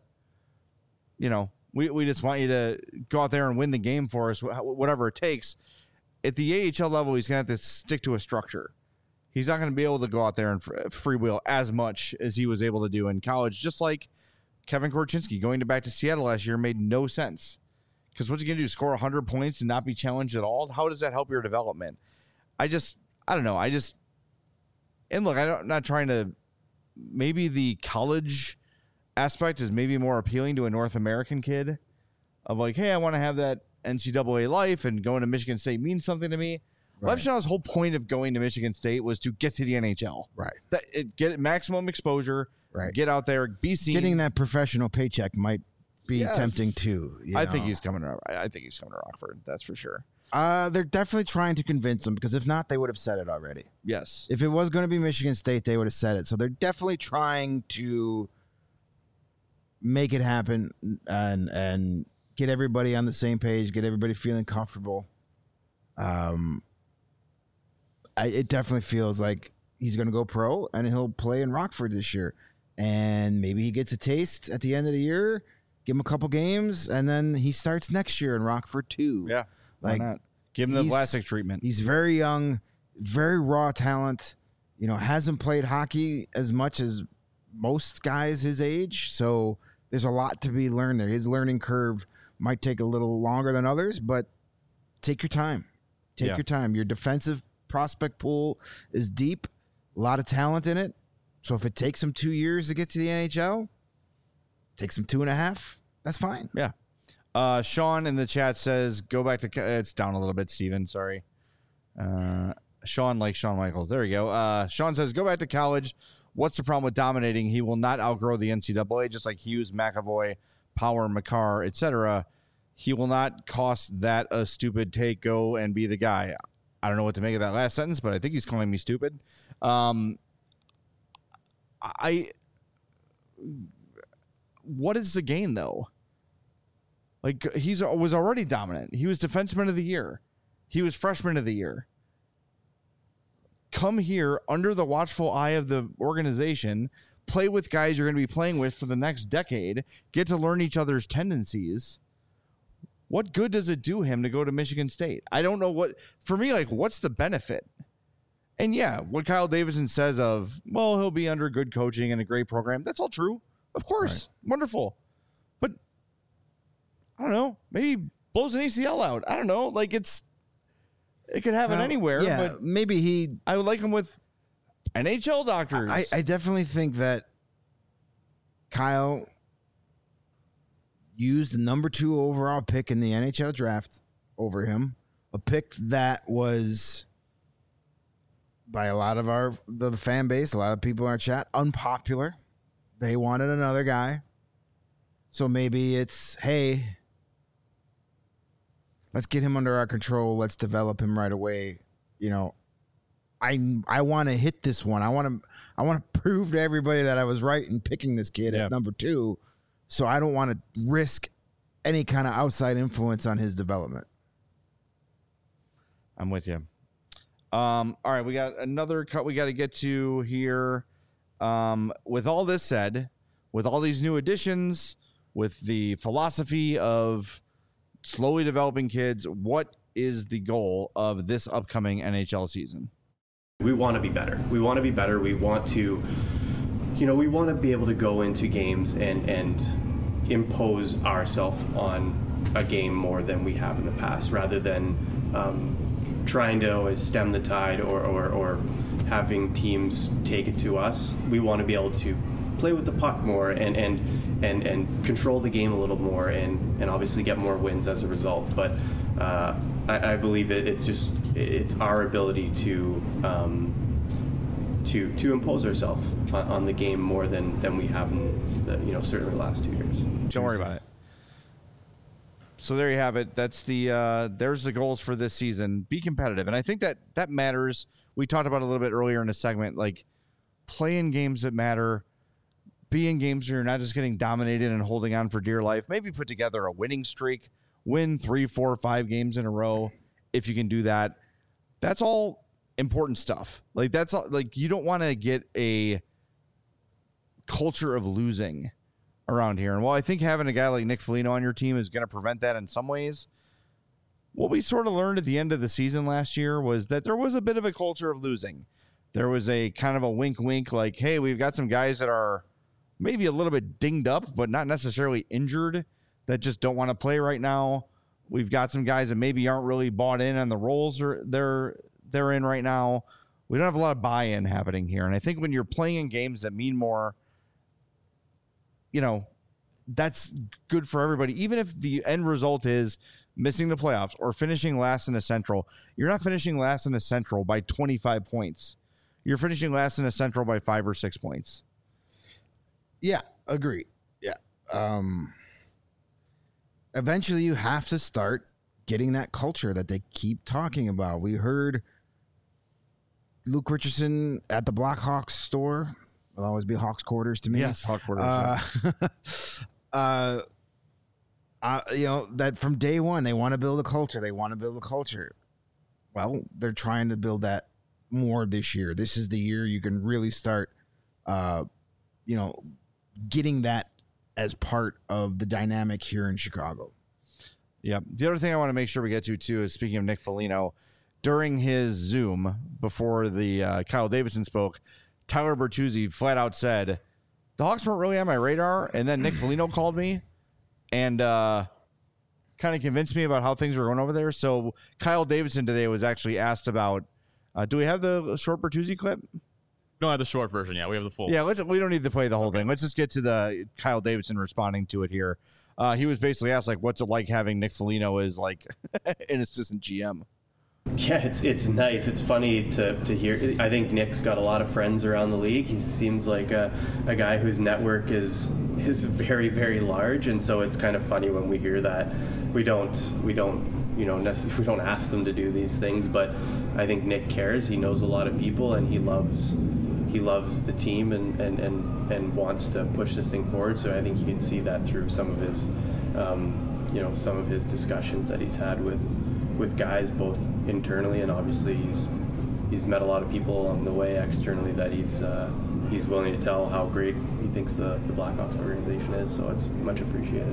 we just want you to go out there and win the game for us, whatever it takes. At the AHL level, he's going to have to stick to a structure. He's not going to be able to go out there and freewheel as much as he was able to do in college, just like Kevin Korchinski going back to Seattle last year made no sense. Because what's he going to do, score 100 points and not be challenged at all? How does that help your development? I don't know. And look, I'm not trying to, maybe the college aspect is maybe more appealing to a North American kid of like, hey, I want to have that NCAA life and going to Michigan State means something to me. Right. Levshunov's whole point of going to Michigan State was to get to the NHL. Right. Get maximum exposure. Right. Get out there, be seen. Getting that professional paycheck might be tempting too. I think he's coming to Rockford. That's for sure. They're definitely trying to convince them, because if not, they would have said it already. Yes. If it was going to be Michigan State, they would have said it. So they're definitely trying to make it happen and get everybody on the same page, get everybody feeling comfortable. It definitely feels like he's going to go pro and he'll play in Rockford this year. And maybe he gets a taste at the end of the year, give him a couple games, and then he starts next year in Rockford too. Yeah. Why not? Give him the Vlasic treatment. He's very young, very raw talent, hasn't played hockey as much as most guys his age. So there's a lot to be learned there. His learning curve might take a little longer than others, but take your time. Take your time. Your defensive prospect pool is deep, a lot of talent in it. So if it takes him 2 years to get to the NHL, takes him 2.5, that's fine. Yeah. Sean in the chat says, go back to, it's down a little bit, Steven, sorry. Sean like Shawn Michaels. There we go. Sean says, go back to college. What's the problem with dominating? He will not outgrow the NCAA, just like Hughes, McAvoy, Power, Makar, etc. He will not cost that a stupid take. Go and be the guy. I don't know what to make of that last sentence, but I think he's calling me stupid. What is the gain, though? Like, was already dominant. He was defenseman of the year. He was freshman of the year. Come here under the watchful eye of the organization, play with guys you're going to be playing with for the next decade, get to learn each other's tendencies. What good does it do him to go to Michigan State? I don't know for me, like, what's the benefit? And yeah, what Kyle Davidson says of, well, he'll be under good coaching and a great program. That's all true. Of course. Right. Wonderful. I don't know, maybe blows an ACL out. I don't know. Like it could happen anywhere. Yeah, but maybe I would like him with NHL doctors. I definitely think that Kyle used the number 2 overall pick in the NHL draft over him, a pick that was, by a lot of the fan base, a lot of people in our chat, unpopular. They wanted another guy. So maybe it's, hey, let's get him under our control. Let's develop him right away. You know, I want to hit this one. I want to prove to everybody that I was right in picking this kid at number 2. So I don't want to risk any kind of outside influence on his development. I'm with you. All right, we got another cut we got to get to here. With all this said, with all these new additions, with the philosophy of slowly developing kids, what is the goal of this upcoming NHL season? We want to be better. We want to be better. We want to, we want to be able to go into games and impose ourselves on a game more than we have in the past, rather than trying to always stem the tide or having teams take it to us. We want to be able to play with the puck more and control the game a little more and obviously get more wins as a result. But I believe it's our ability to impose ourselves on the game more than we have in the certainly the last 2 years. Don't worry about it. So there you have it. That's there's the goals for this season. Be competitive. And I think that matters. We talked about it a little bit earlier in the segment, like playing games that matter, be in games where you're not just getting dominated and holding on for dear life. Maybe put together a winning streak, win 3, 4, 5 games in a row. If you can do that, that's all important stuff. Like that's all, like you don't want to get a culture of losing around here. And while I think having a guy like Nick Foligno on your team is going to prevent that in some ways, what we sort of learned at the end of the season last year was that there was a bit of a culture of losing. There was a kind of a wink, like, hey, we've got some guys that are maybe a little bit dinged up, but not necessarily injured, that just don't want to play right now. We've got some guys that maybe aren't really bought in on the roles they're in right now. We don't have a lot of buy-in happening here. And I think when you're playing in games that mean more, that's good for everybody. Even if the end result is missing the playoffs or finishing last in the Central, you're not finishing last in the Central by 25 points. You're finishing last in the Central by 5 or 6 points. Yeah, agree. Yeah. Eventually you have to start getting that culture that they keep talking about. We heard Luke Richardson at the Blackhawks store. Will always be Hawks quarters to me. Yes, Hawks quarters. That from day one, they want to build a culture. Well, they're trying to build that more this year. This is the year you can really start, getting that as part of the dynamic here in Chicago. Yeah. The other thing I want to make sure we get to, too, is speaking of Nick Foligno, during his Zoom before the Kyle Davidson spoke, Tyler Bertuzzi flat out said, the Hawks weren't really on my radar, and then Nick Foligno called me and kind of convinced me about how things were going over there. So Kyle Davidson today was actually asked about, do we have the short Bertuzzi clip? We don't have the short version yet. We have the full. Yeah, we don't need to play the whole thing. Let's just get to the Kyle Davidson responding to it here. He was basically asked, like, what's it like having Nick Foligno as, like, an assistant GM? Yeah, it's nice. It's funny to hear. I think Nick's got a lot of friends around the league. He seems like a guy whose network is very, very large, and so it's kind of funny when we hear that. We don't ask them to do these things, but I think Nick cares. He knows a lot of people, and he loves the team and wants to push this thing forward. So I think you can see that through some of his discussions that he's had with guys both internally, and obviously he's met a lot of people along the way externally that he's willing to tell how great he thinks the Blackhawks organization is. So it's much appreciated.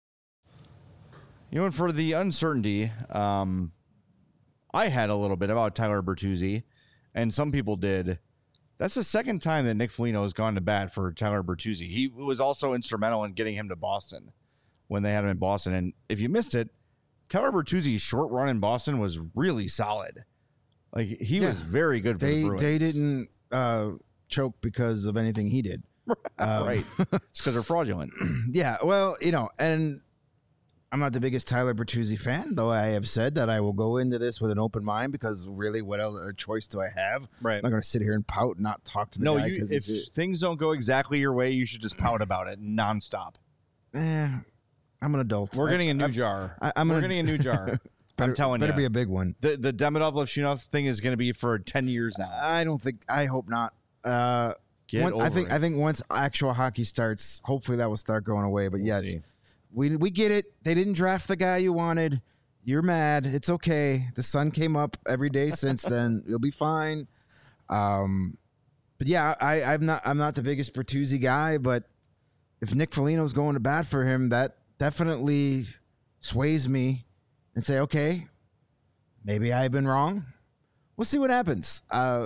And for the uncertainty, I had a little bit about Tyler Bertuzzi, and some people did. That's the second time that Nick Foligno has gone to bat for Tyler Bertuzzi. He was also instrumental in getting him to Boston when they had him in Boston. And if you missed it, Tyler Bertuzzi's short run in Boston was really solid. Like, he was very good for the Bruins. They didn't choke because of anything he did. Right. It's because they're fraudulent. Yeah, well, and I'm not the biggest Tyler Bertuzzi fan, though I have said that I will go into this with an open mind because really, what other choice do I have? Right. I'm not going to sit here and pout and not talk to the guy. If things don't go exactly your way, you should just pout about it nonstop. I'm an adult. We're getting a new jar. We're getting a new jar. I'm telling you. Better be a big one. The Demidov-Levchinov thing is going to be for 10 years now. I hope not. I think once actual hockey starts, hopefully that will start going away. But We'll see. we get it. They didn't draft the guy you wanted. You're mad. It's okay. The sun came up every day since then. You'll be fine. But yeah, I'm not the biggest Bertuzzi guy, but if Nick Foligno's going to bat for him, that definitely sways me and say, okay, maybe I've been wrong. We'll see what happens.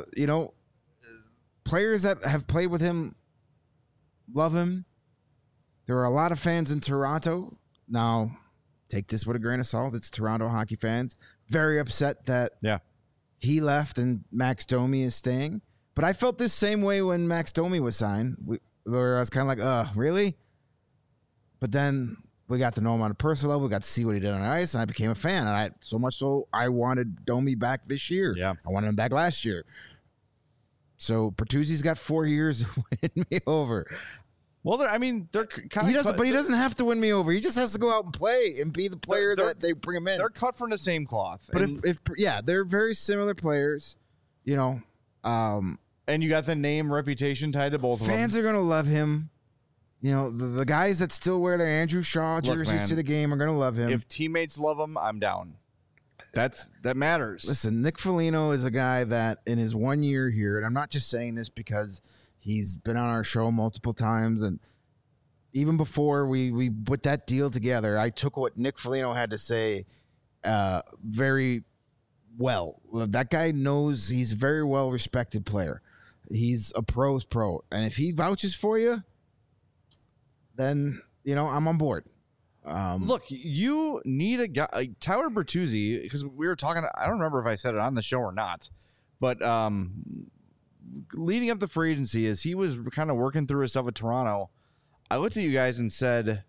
Players that have played with him love him. There are a lot of fans in Toronto. Now, take this with a grain of salt. It's Toronto hockey fans. Very upset that he left and Max Domi is staying. But I felt this same way when Max Domi was signed. Where I was kind of like, really? But then we got to know him on a personal level. We got to see what he did on ice, and I became a fan. And so much so, I wanted Domi back this year. Yeah. I wanted him back last year. So Bertuzzi's got 4 years to win me over. Well, they're kind of. But he doesn't have to win me over. He just has to go out and play and be the player that they bring him in. They're cut from the same cloth. But if they're very similar players, and you got the name reputation tied to both of them. Fans are gonna love him. The guys that still wear their Andrew Shaw jerseys to the game are gonna love him. If teammates love him, I'm down. That matters. Listen, Nick Foligno is a guy that in his 1 year here, and I'm not just saying this because he's been on our show multiple times, and even before we put that deal together, I took what Nick Foligno had to say very well. That guy knows he's a very well respected player. He's a pro's pro, and if he vouches for you, then I'm on board. Look, you need a guy like Tyler Bertuzzi, because we were talking. I don't remember if I said it on the show or not, but leading up to free agency, as he was kind of working through his stuff with Toronto, I looked at you guys and said,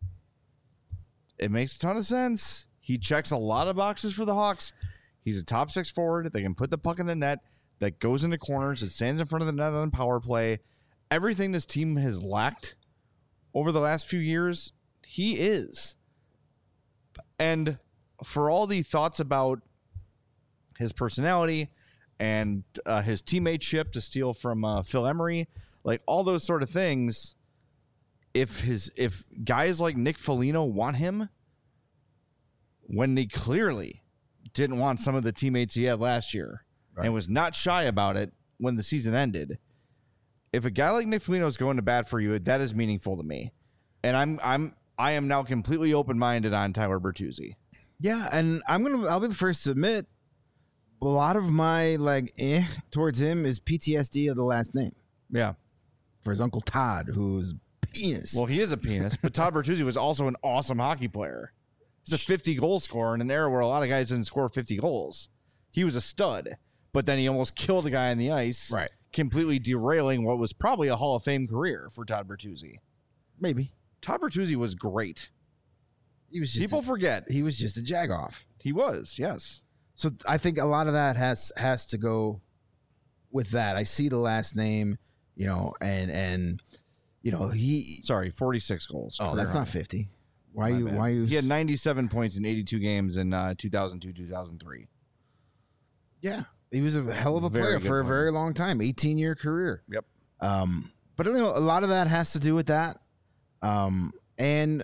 it makes a ton of sense. He checks a lot of boxes for the Hawks. He's a top 6 forward. They can put the puck in the net that goes into corners. It stands in front of the net on power play. Everything this team has lacked over the last few years, he is. And for all the thoughts about his personality and his teammateship, to steal from Phil Emery, like all those sort of things, if guys like Nick Foligno want him, when they clearly didn't want some of the teammates he had last year, right, and was not shy about it when the season ended, if a guy like Nick Foligno is going to bat for you, that is meaningful to me. And I am now completely open-minded on Tyler Bertuzzi. Yeah, and I'll be the first to admit, a lot of my towards him is PTSD of the last name. Yeah. For his Uncle Todd, who's penis. Well, he is a penis, but Todd Bertuzzi was also an awesome hockey player. He's a 50-goal scorer in an era where a lot of guys didn't score 50 goals. He was a stud, but then he almost killed a guy on the ice, right, completely derailing what was probably a Hall of Fame career for Todd Bertuzzi. Maybe. Todd Bertuzzi was great. He was just People forget. He was just a jagoff. He was, yes. So I think a lot of that has to go with that. I see the last name, and he. Sorry, 46 goals. Oh, that's not 50. Why you? He had 97 points in 82 games in 2002-2003. Yeah, he was a hell of a player for a very long time, 18-year career. Yep. But a lot of that has to do with that. When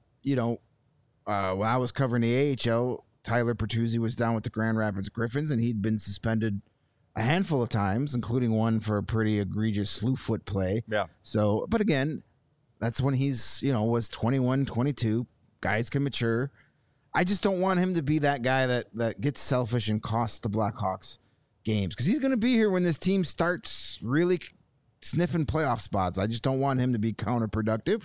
I was covering the AHL, Tyler Bertuzzi was down with the Grand Rapids Griffins, and he'd been suspended a handful of times, including one for a pretty egregious slew foot play. Yeah. So, but again, that's when he's, was 21, 22. Guys can mature. I just don't want him to be that guy that gets selfish and costs the Blackhawks games, because he's going to be here when this team starts really sniffing playoff spots. I just don't want him to be counterproductive.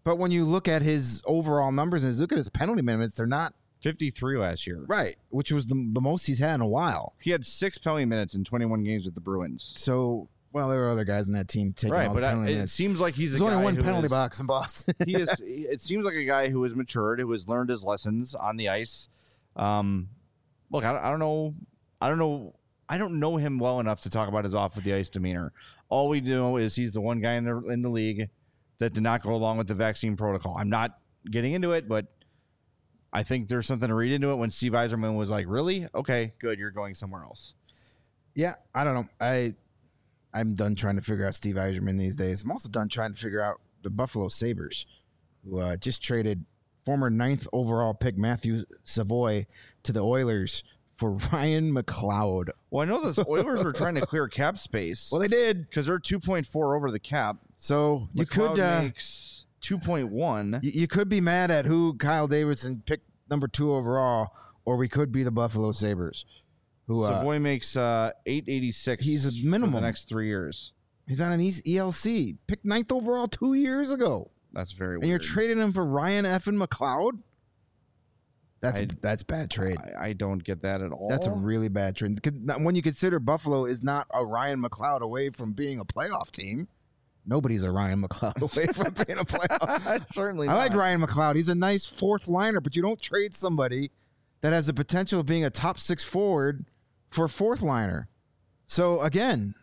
But when you look at his overall numbers and look at his penalty minutes, they're not 53 last year. right, which was the most he's had in a while. He had 6 penalty minutes in 21 games with the Bruins. So, well, there were other guys in that team taking Right, all but the penalty it minutes. seems like he's There's a only guy one who penalty is- box in Boston. he is. It seems like a guy who has matured, who has learned his lessons on the ice. Look, I don't know. I don't know him well enough to talk about his off the ice demeanor. All we know is he's the one guy in the league that did not go along with the vaccine protocol. I'm not getting into it, but I think there's something to read into it when Steve Yzerman was like, really? Okay, good. You're going somewhere else. Yeah, I don't know. I'm done trying to figure out Steve Yzerman these days. I'm also done trying to figure out the Buffalo Sabres, who just traded former 9th overall pick Matthew Savoy to the Oilers for Ryan McLeod. Well, I know the Oilers were trying to clear cap space. Well, they did. Because they're 2.4 over the cap. So you McLeod could makes 2.1. you could be mad at who Kyle Davidson picked number 2 overall, or we could be the Buffalo Sabres. Who Savoy makes 886. He's a minimum for the next 3 years. he's on an ELC. Picked 9th overall 2 years ago. That's very weird. And you're trading him for Ryan effing McLeod? That's bad trade. I don't get that at all. That's a really bad trade. When you consider Buffalo is not a Ryan McLeod away from being a playoff team. Nobody's a Ryan McLeod away from being a playoff. Certainly I not. like Ryan McLeod. He's a nice 4th liner, but you don't trade somebody that has the potential of being a top 6 forward for a 4th liner. So again,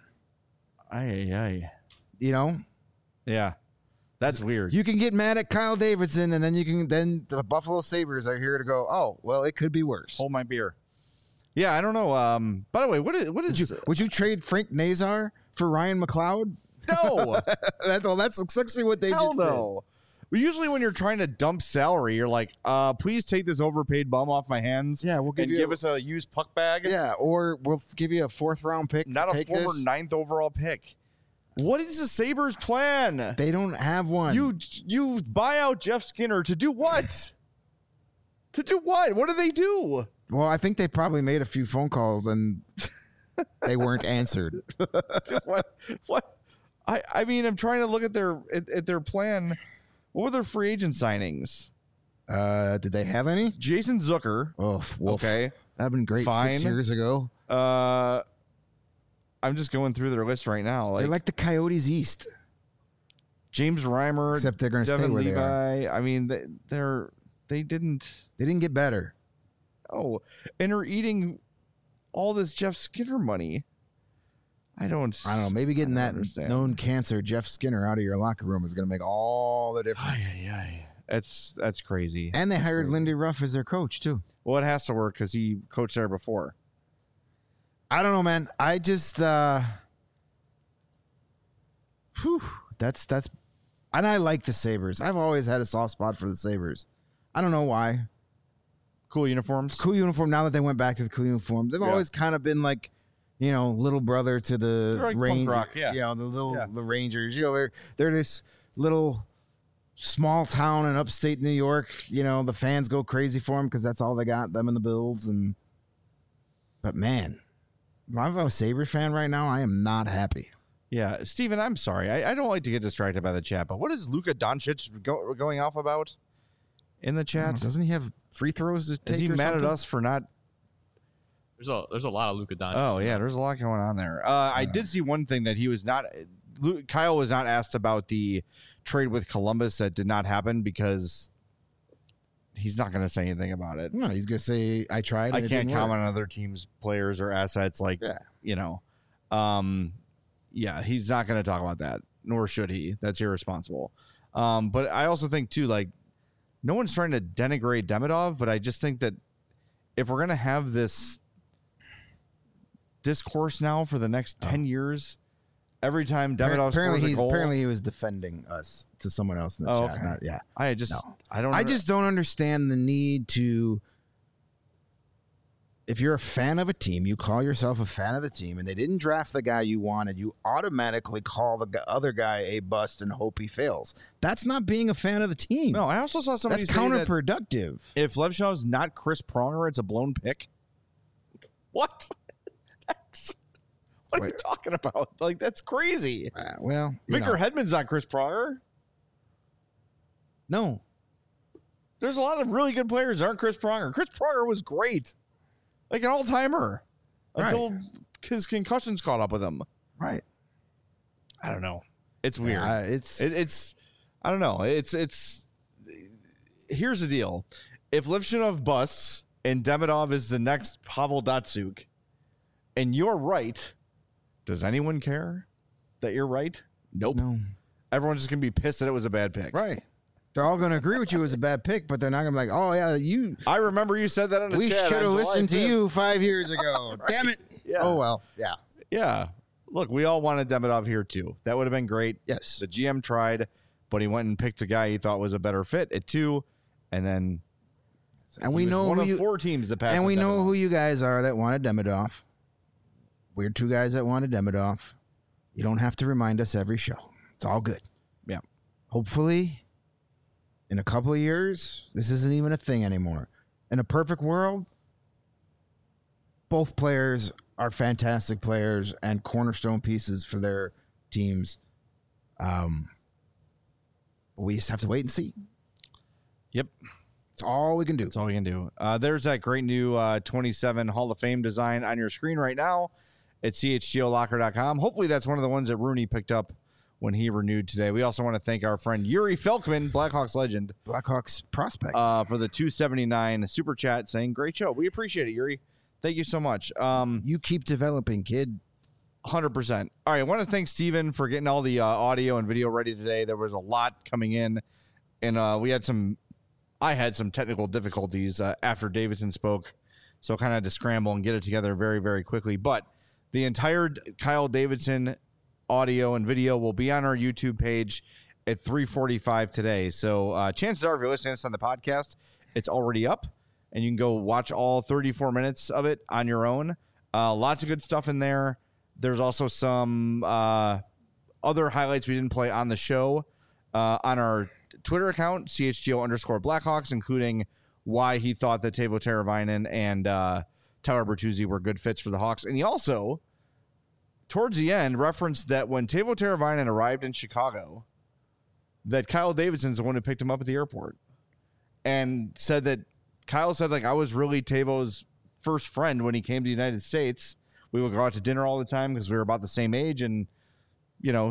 you know, yeah, that's weird. you can get mad at Kyle Davidson, and then the Buffalo Sabres are here to go, oh, well, it could be worse. Hold my beer. Yeah, I don't know. By the way, what is Would you trade Frank Nazar for Ryan McLeod? no? That's essentially what they Hell just no. Well, usually when you're trying to dump salary, you're like, please take this overpaid bum off my hands. Yeah, we'll give us a used puck bag. did. Yeah, or we'll give you a 4th round pick. Not to a take former this. 9th overall pick. What is the Sabres' plan? They don't have one. You buy out Jeff Skinner to do what? To do what? What do they do? Well, I think they probably made a few phone calls and they weren't answered. What? I mean, I'm trying to look at their plan. What were their free agent signings? Did they have any? Jason Zucker. Oh, wolf. Okay. That'd been great Fine. 6 years ago. I'm just going through their list right now. They're like the Coyotes East. James Reimer, Except they're going to stay Devin where Levi. they are. I mean, they didn't. They didn't get better. Oh, and are eating all this Jeff Skinner money. I don't know. Maybe getting that understand. known cancer, Jeff Skinner, out of your locker room is going to make all the difference. That's crazy. And they hired Lindy Ruff as their coach, too. Well, it has to work because he coached there before. I don't know, man. I just, that's, and I like the Sabres. I've always had a soft spot for the Sabres. I don't know why. Cool uniforms. Cool uniform. Now that they went back to the cool uniform, they've always kind of been like, you know, little brother to the They're like punk rock, yeah. You know, the Rangers. You know, they're this little small town in upstate New York. You know, the fans go crazy for them because that's all they got, them and the Bills. But man, if I'm a Sabres fan right now, I am not happy. Yeah, Steven, I'm sorry. I don't like to get distracted by the chat, but what is Luka Doncic going off about in the chat? Doesn't he have free throws to take? Is he mad at us for not? There's a lot of Luka Doncic. Oh yeah, there's a lot going on there. I did see one thing that he was not. Kyle was not asked about the trade with Columbus that did not happen because he's not going to say anything about it. No, he's going to say I tried. I can't comment on other teams' players or assets. Like you know, yeah, he's not going to talk about that, nor should he. That's irresponsible. But I also think too, like, no one's trying to denigrate Demidov, but I just think that if we're going to have this discourse now for the next 10 years, every time Demidov scores a goal, apparently he was defending us to someone else in the chat. Okay. I just don't understand the need to. If you're a fan of a team, you call yourself a fan of the team, and they didn't draft the guy you wanted, you automatically call the other guy a bust and hope he fails. That's not being a fan of the team. No, I also saw somebody That's say counterproductive. that if Levshaw's not Chris Pronger, it's a blown pick. What? What are you talking about? Like, that's crazy. Well, Victor Hedman's not Chris Pronger. No. There's a lot of really good players. Aren't Chris Pronger? Chris Pronger was great, like an all-timer, until his concussions caught up with him. Right. I don't know. It's weird. It's I don't know. It's. Here's the deal: if Lifshinov busts and Demidov is the next Pavel Datsyuk, and you're right, does anyone care that you're right? Nope. No. Everyone's just gonna be pissed that it was a bad pick. Right. They're all going to agree with you it was a bad pick, but they're not going to be like, oh, yeah, I remember you said that in the we chat. should have listened to you 5 years ago. Right. Damn it. Yeah. Oh, well. Yeah. Yeah. Look, we all wanted Demidov here, too. That would have been great. Yes. The GM tried, but he went and picked a guy he thought was a better fit at 2, and then And we he was know one who of 4 teams that passed. and we know Demidov. who you guys are that wanted Demidov. We're 2 guys that wanted Demidov. You don't have to remind us every show. It's all good. Yeah. Hopefully, in a couple of years, this isn't even a thing anymore. In a perfect world, both players are fantastic players and cornerstone pieces for their teams. We just have to wait and see. Yep. It's all we can do. That's all we can do. There's that great new 27 Hall of Fame design on your screen right now at chgolocker.com. Hopefully that's one of the ones that Rooney picked up when he renewed today. We also want to thank our friend Yuri Felkman, Blackhawks legend, Blackhawks prospect. for the 279 super chat saying, great show. We appreciate it, Yuri. Thank you so much. You keep developing, kid. 100%. All right, I want to thank Steven for getting all the audio and video ready today. There was a lot coming in, and I had some technical difficulties after Davidson spoke, so I kind of had to scramble and get it together very, very quickly. But the entire Kyle Davidson audio and video will be on our YouTube page at 3:45 today. So chances are, if you're listening to this on the podcast, it's already up, and you can go watch all 34 minutes of it on your own. Lots of good stuff in there. There's also some other highlights we didn't play on the show on our Twitter account, CHGO_Blackhawks, including why he thought that Teuvo Teravainen and Tyler Bertuzzi were good fits for the Hawks. And he also, towards the end, referenced that when Teuvo Teravainen arrived in Chicago, that Kyle Davidson's the one who picked him up at the airport, and said that Kyle said, like, I was really Teuvo's first friend when he came to the United States. We would go out to dinner all the time because we were about the same age, and, you know,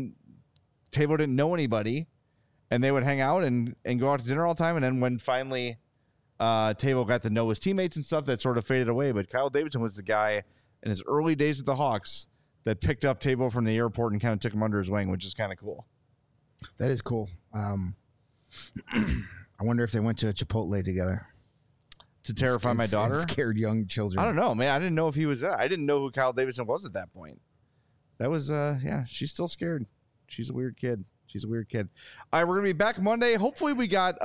Teuvo didn't know anybody, and they would hang out and go out to dinner all the time. And then when finally Teuvo got to know his teammates and stuff, that sort of faded away. But Kyle Davidson was the guy in his early days with the Hawks that picked up Teuvo from the airport and kind of took him under his wing, which is kind of cool. That is cool. I wonder if they went to a Chipotle together. To terrify my daughter? And scared young children. I don't know, man. I didn't know if he was that. I didn't know who Kyle Davidson was at that point. That was, yeah, she's still scared. She's a weird kid. All right, we're going to be back Monday. Hopefully we got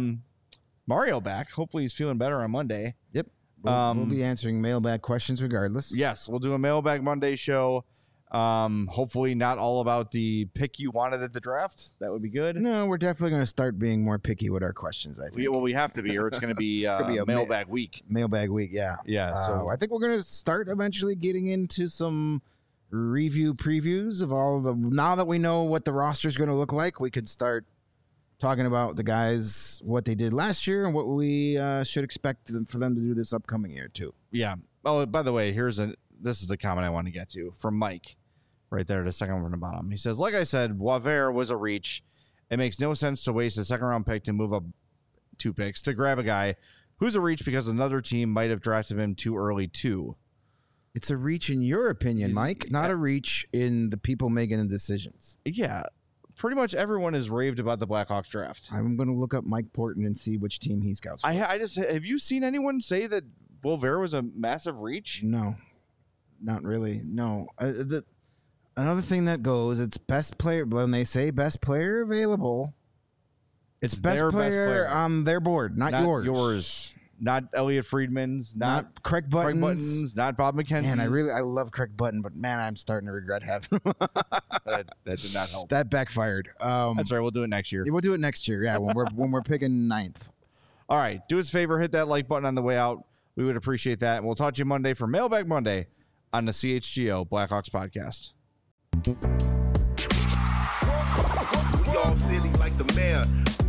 Mario back. Hopefully he's feeling better on Monday. Yep. We'll be answering mailbag questions regardless. Yes, we'll do a Mailbag Monday show. Hopefully not all about the pick you wanted at the draft. That would be good. No, we're definitely going to start being more picky with our questions, I think. We have to be, or it's going to be a Mailbag Week. Mailbag week, yeah. Yeah, so I think we're going to start eventually getting into some review previews of all the... Now that we know what the roster is going to look like, we could start talking about the guys, what they did last year, and what we should expect for them to do this upcoming year, too. Yeah. Oh, by the way, this is the comment I want to get to from Mike. Right there, the second one from the bottom. He says, like I said, Boisvert was a reach. It makes no sense to waste a second-round pick to move up 2 picks to grab a guy who's a reach because another team might have drafted him too early, too. It's a reach in your opinion, Mike, not a reach in the people making the decisions. Yeah. Pretty much everyone has raved about the Blackhawks draft. I'm going to look up Mike Porton and see which team he scouts for. Have you seen anyone say that Boisvert was a massive reach? No, not really. No. Another thing that goes, it's best player. When they say best player available, it's best player on their board, not yours. Not Elliot Friedman's, not Craig Buttons, not Bob McKenzie. Man, I love Craig Button, but man, I'm starting to regret having him. that did not help. That backfired. That's right. We'll do it next year. We'll do it next year. Yeah, when we're picking 9th. All right. Do us a favor, hit that like button on the way out. We would appreciate that. And we'll talk to you Monday for Mailbag Monday on the CHGO Blackhawks podcast. We all silly like the mayor.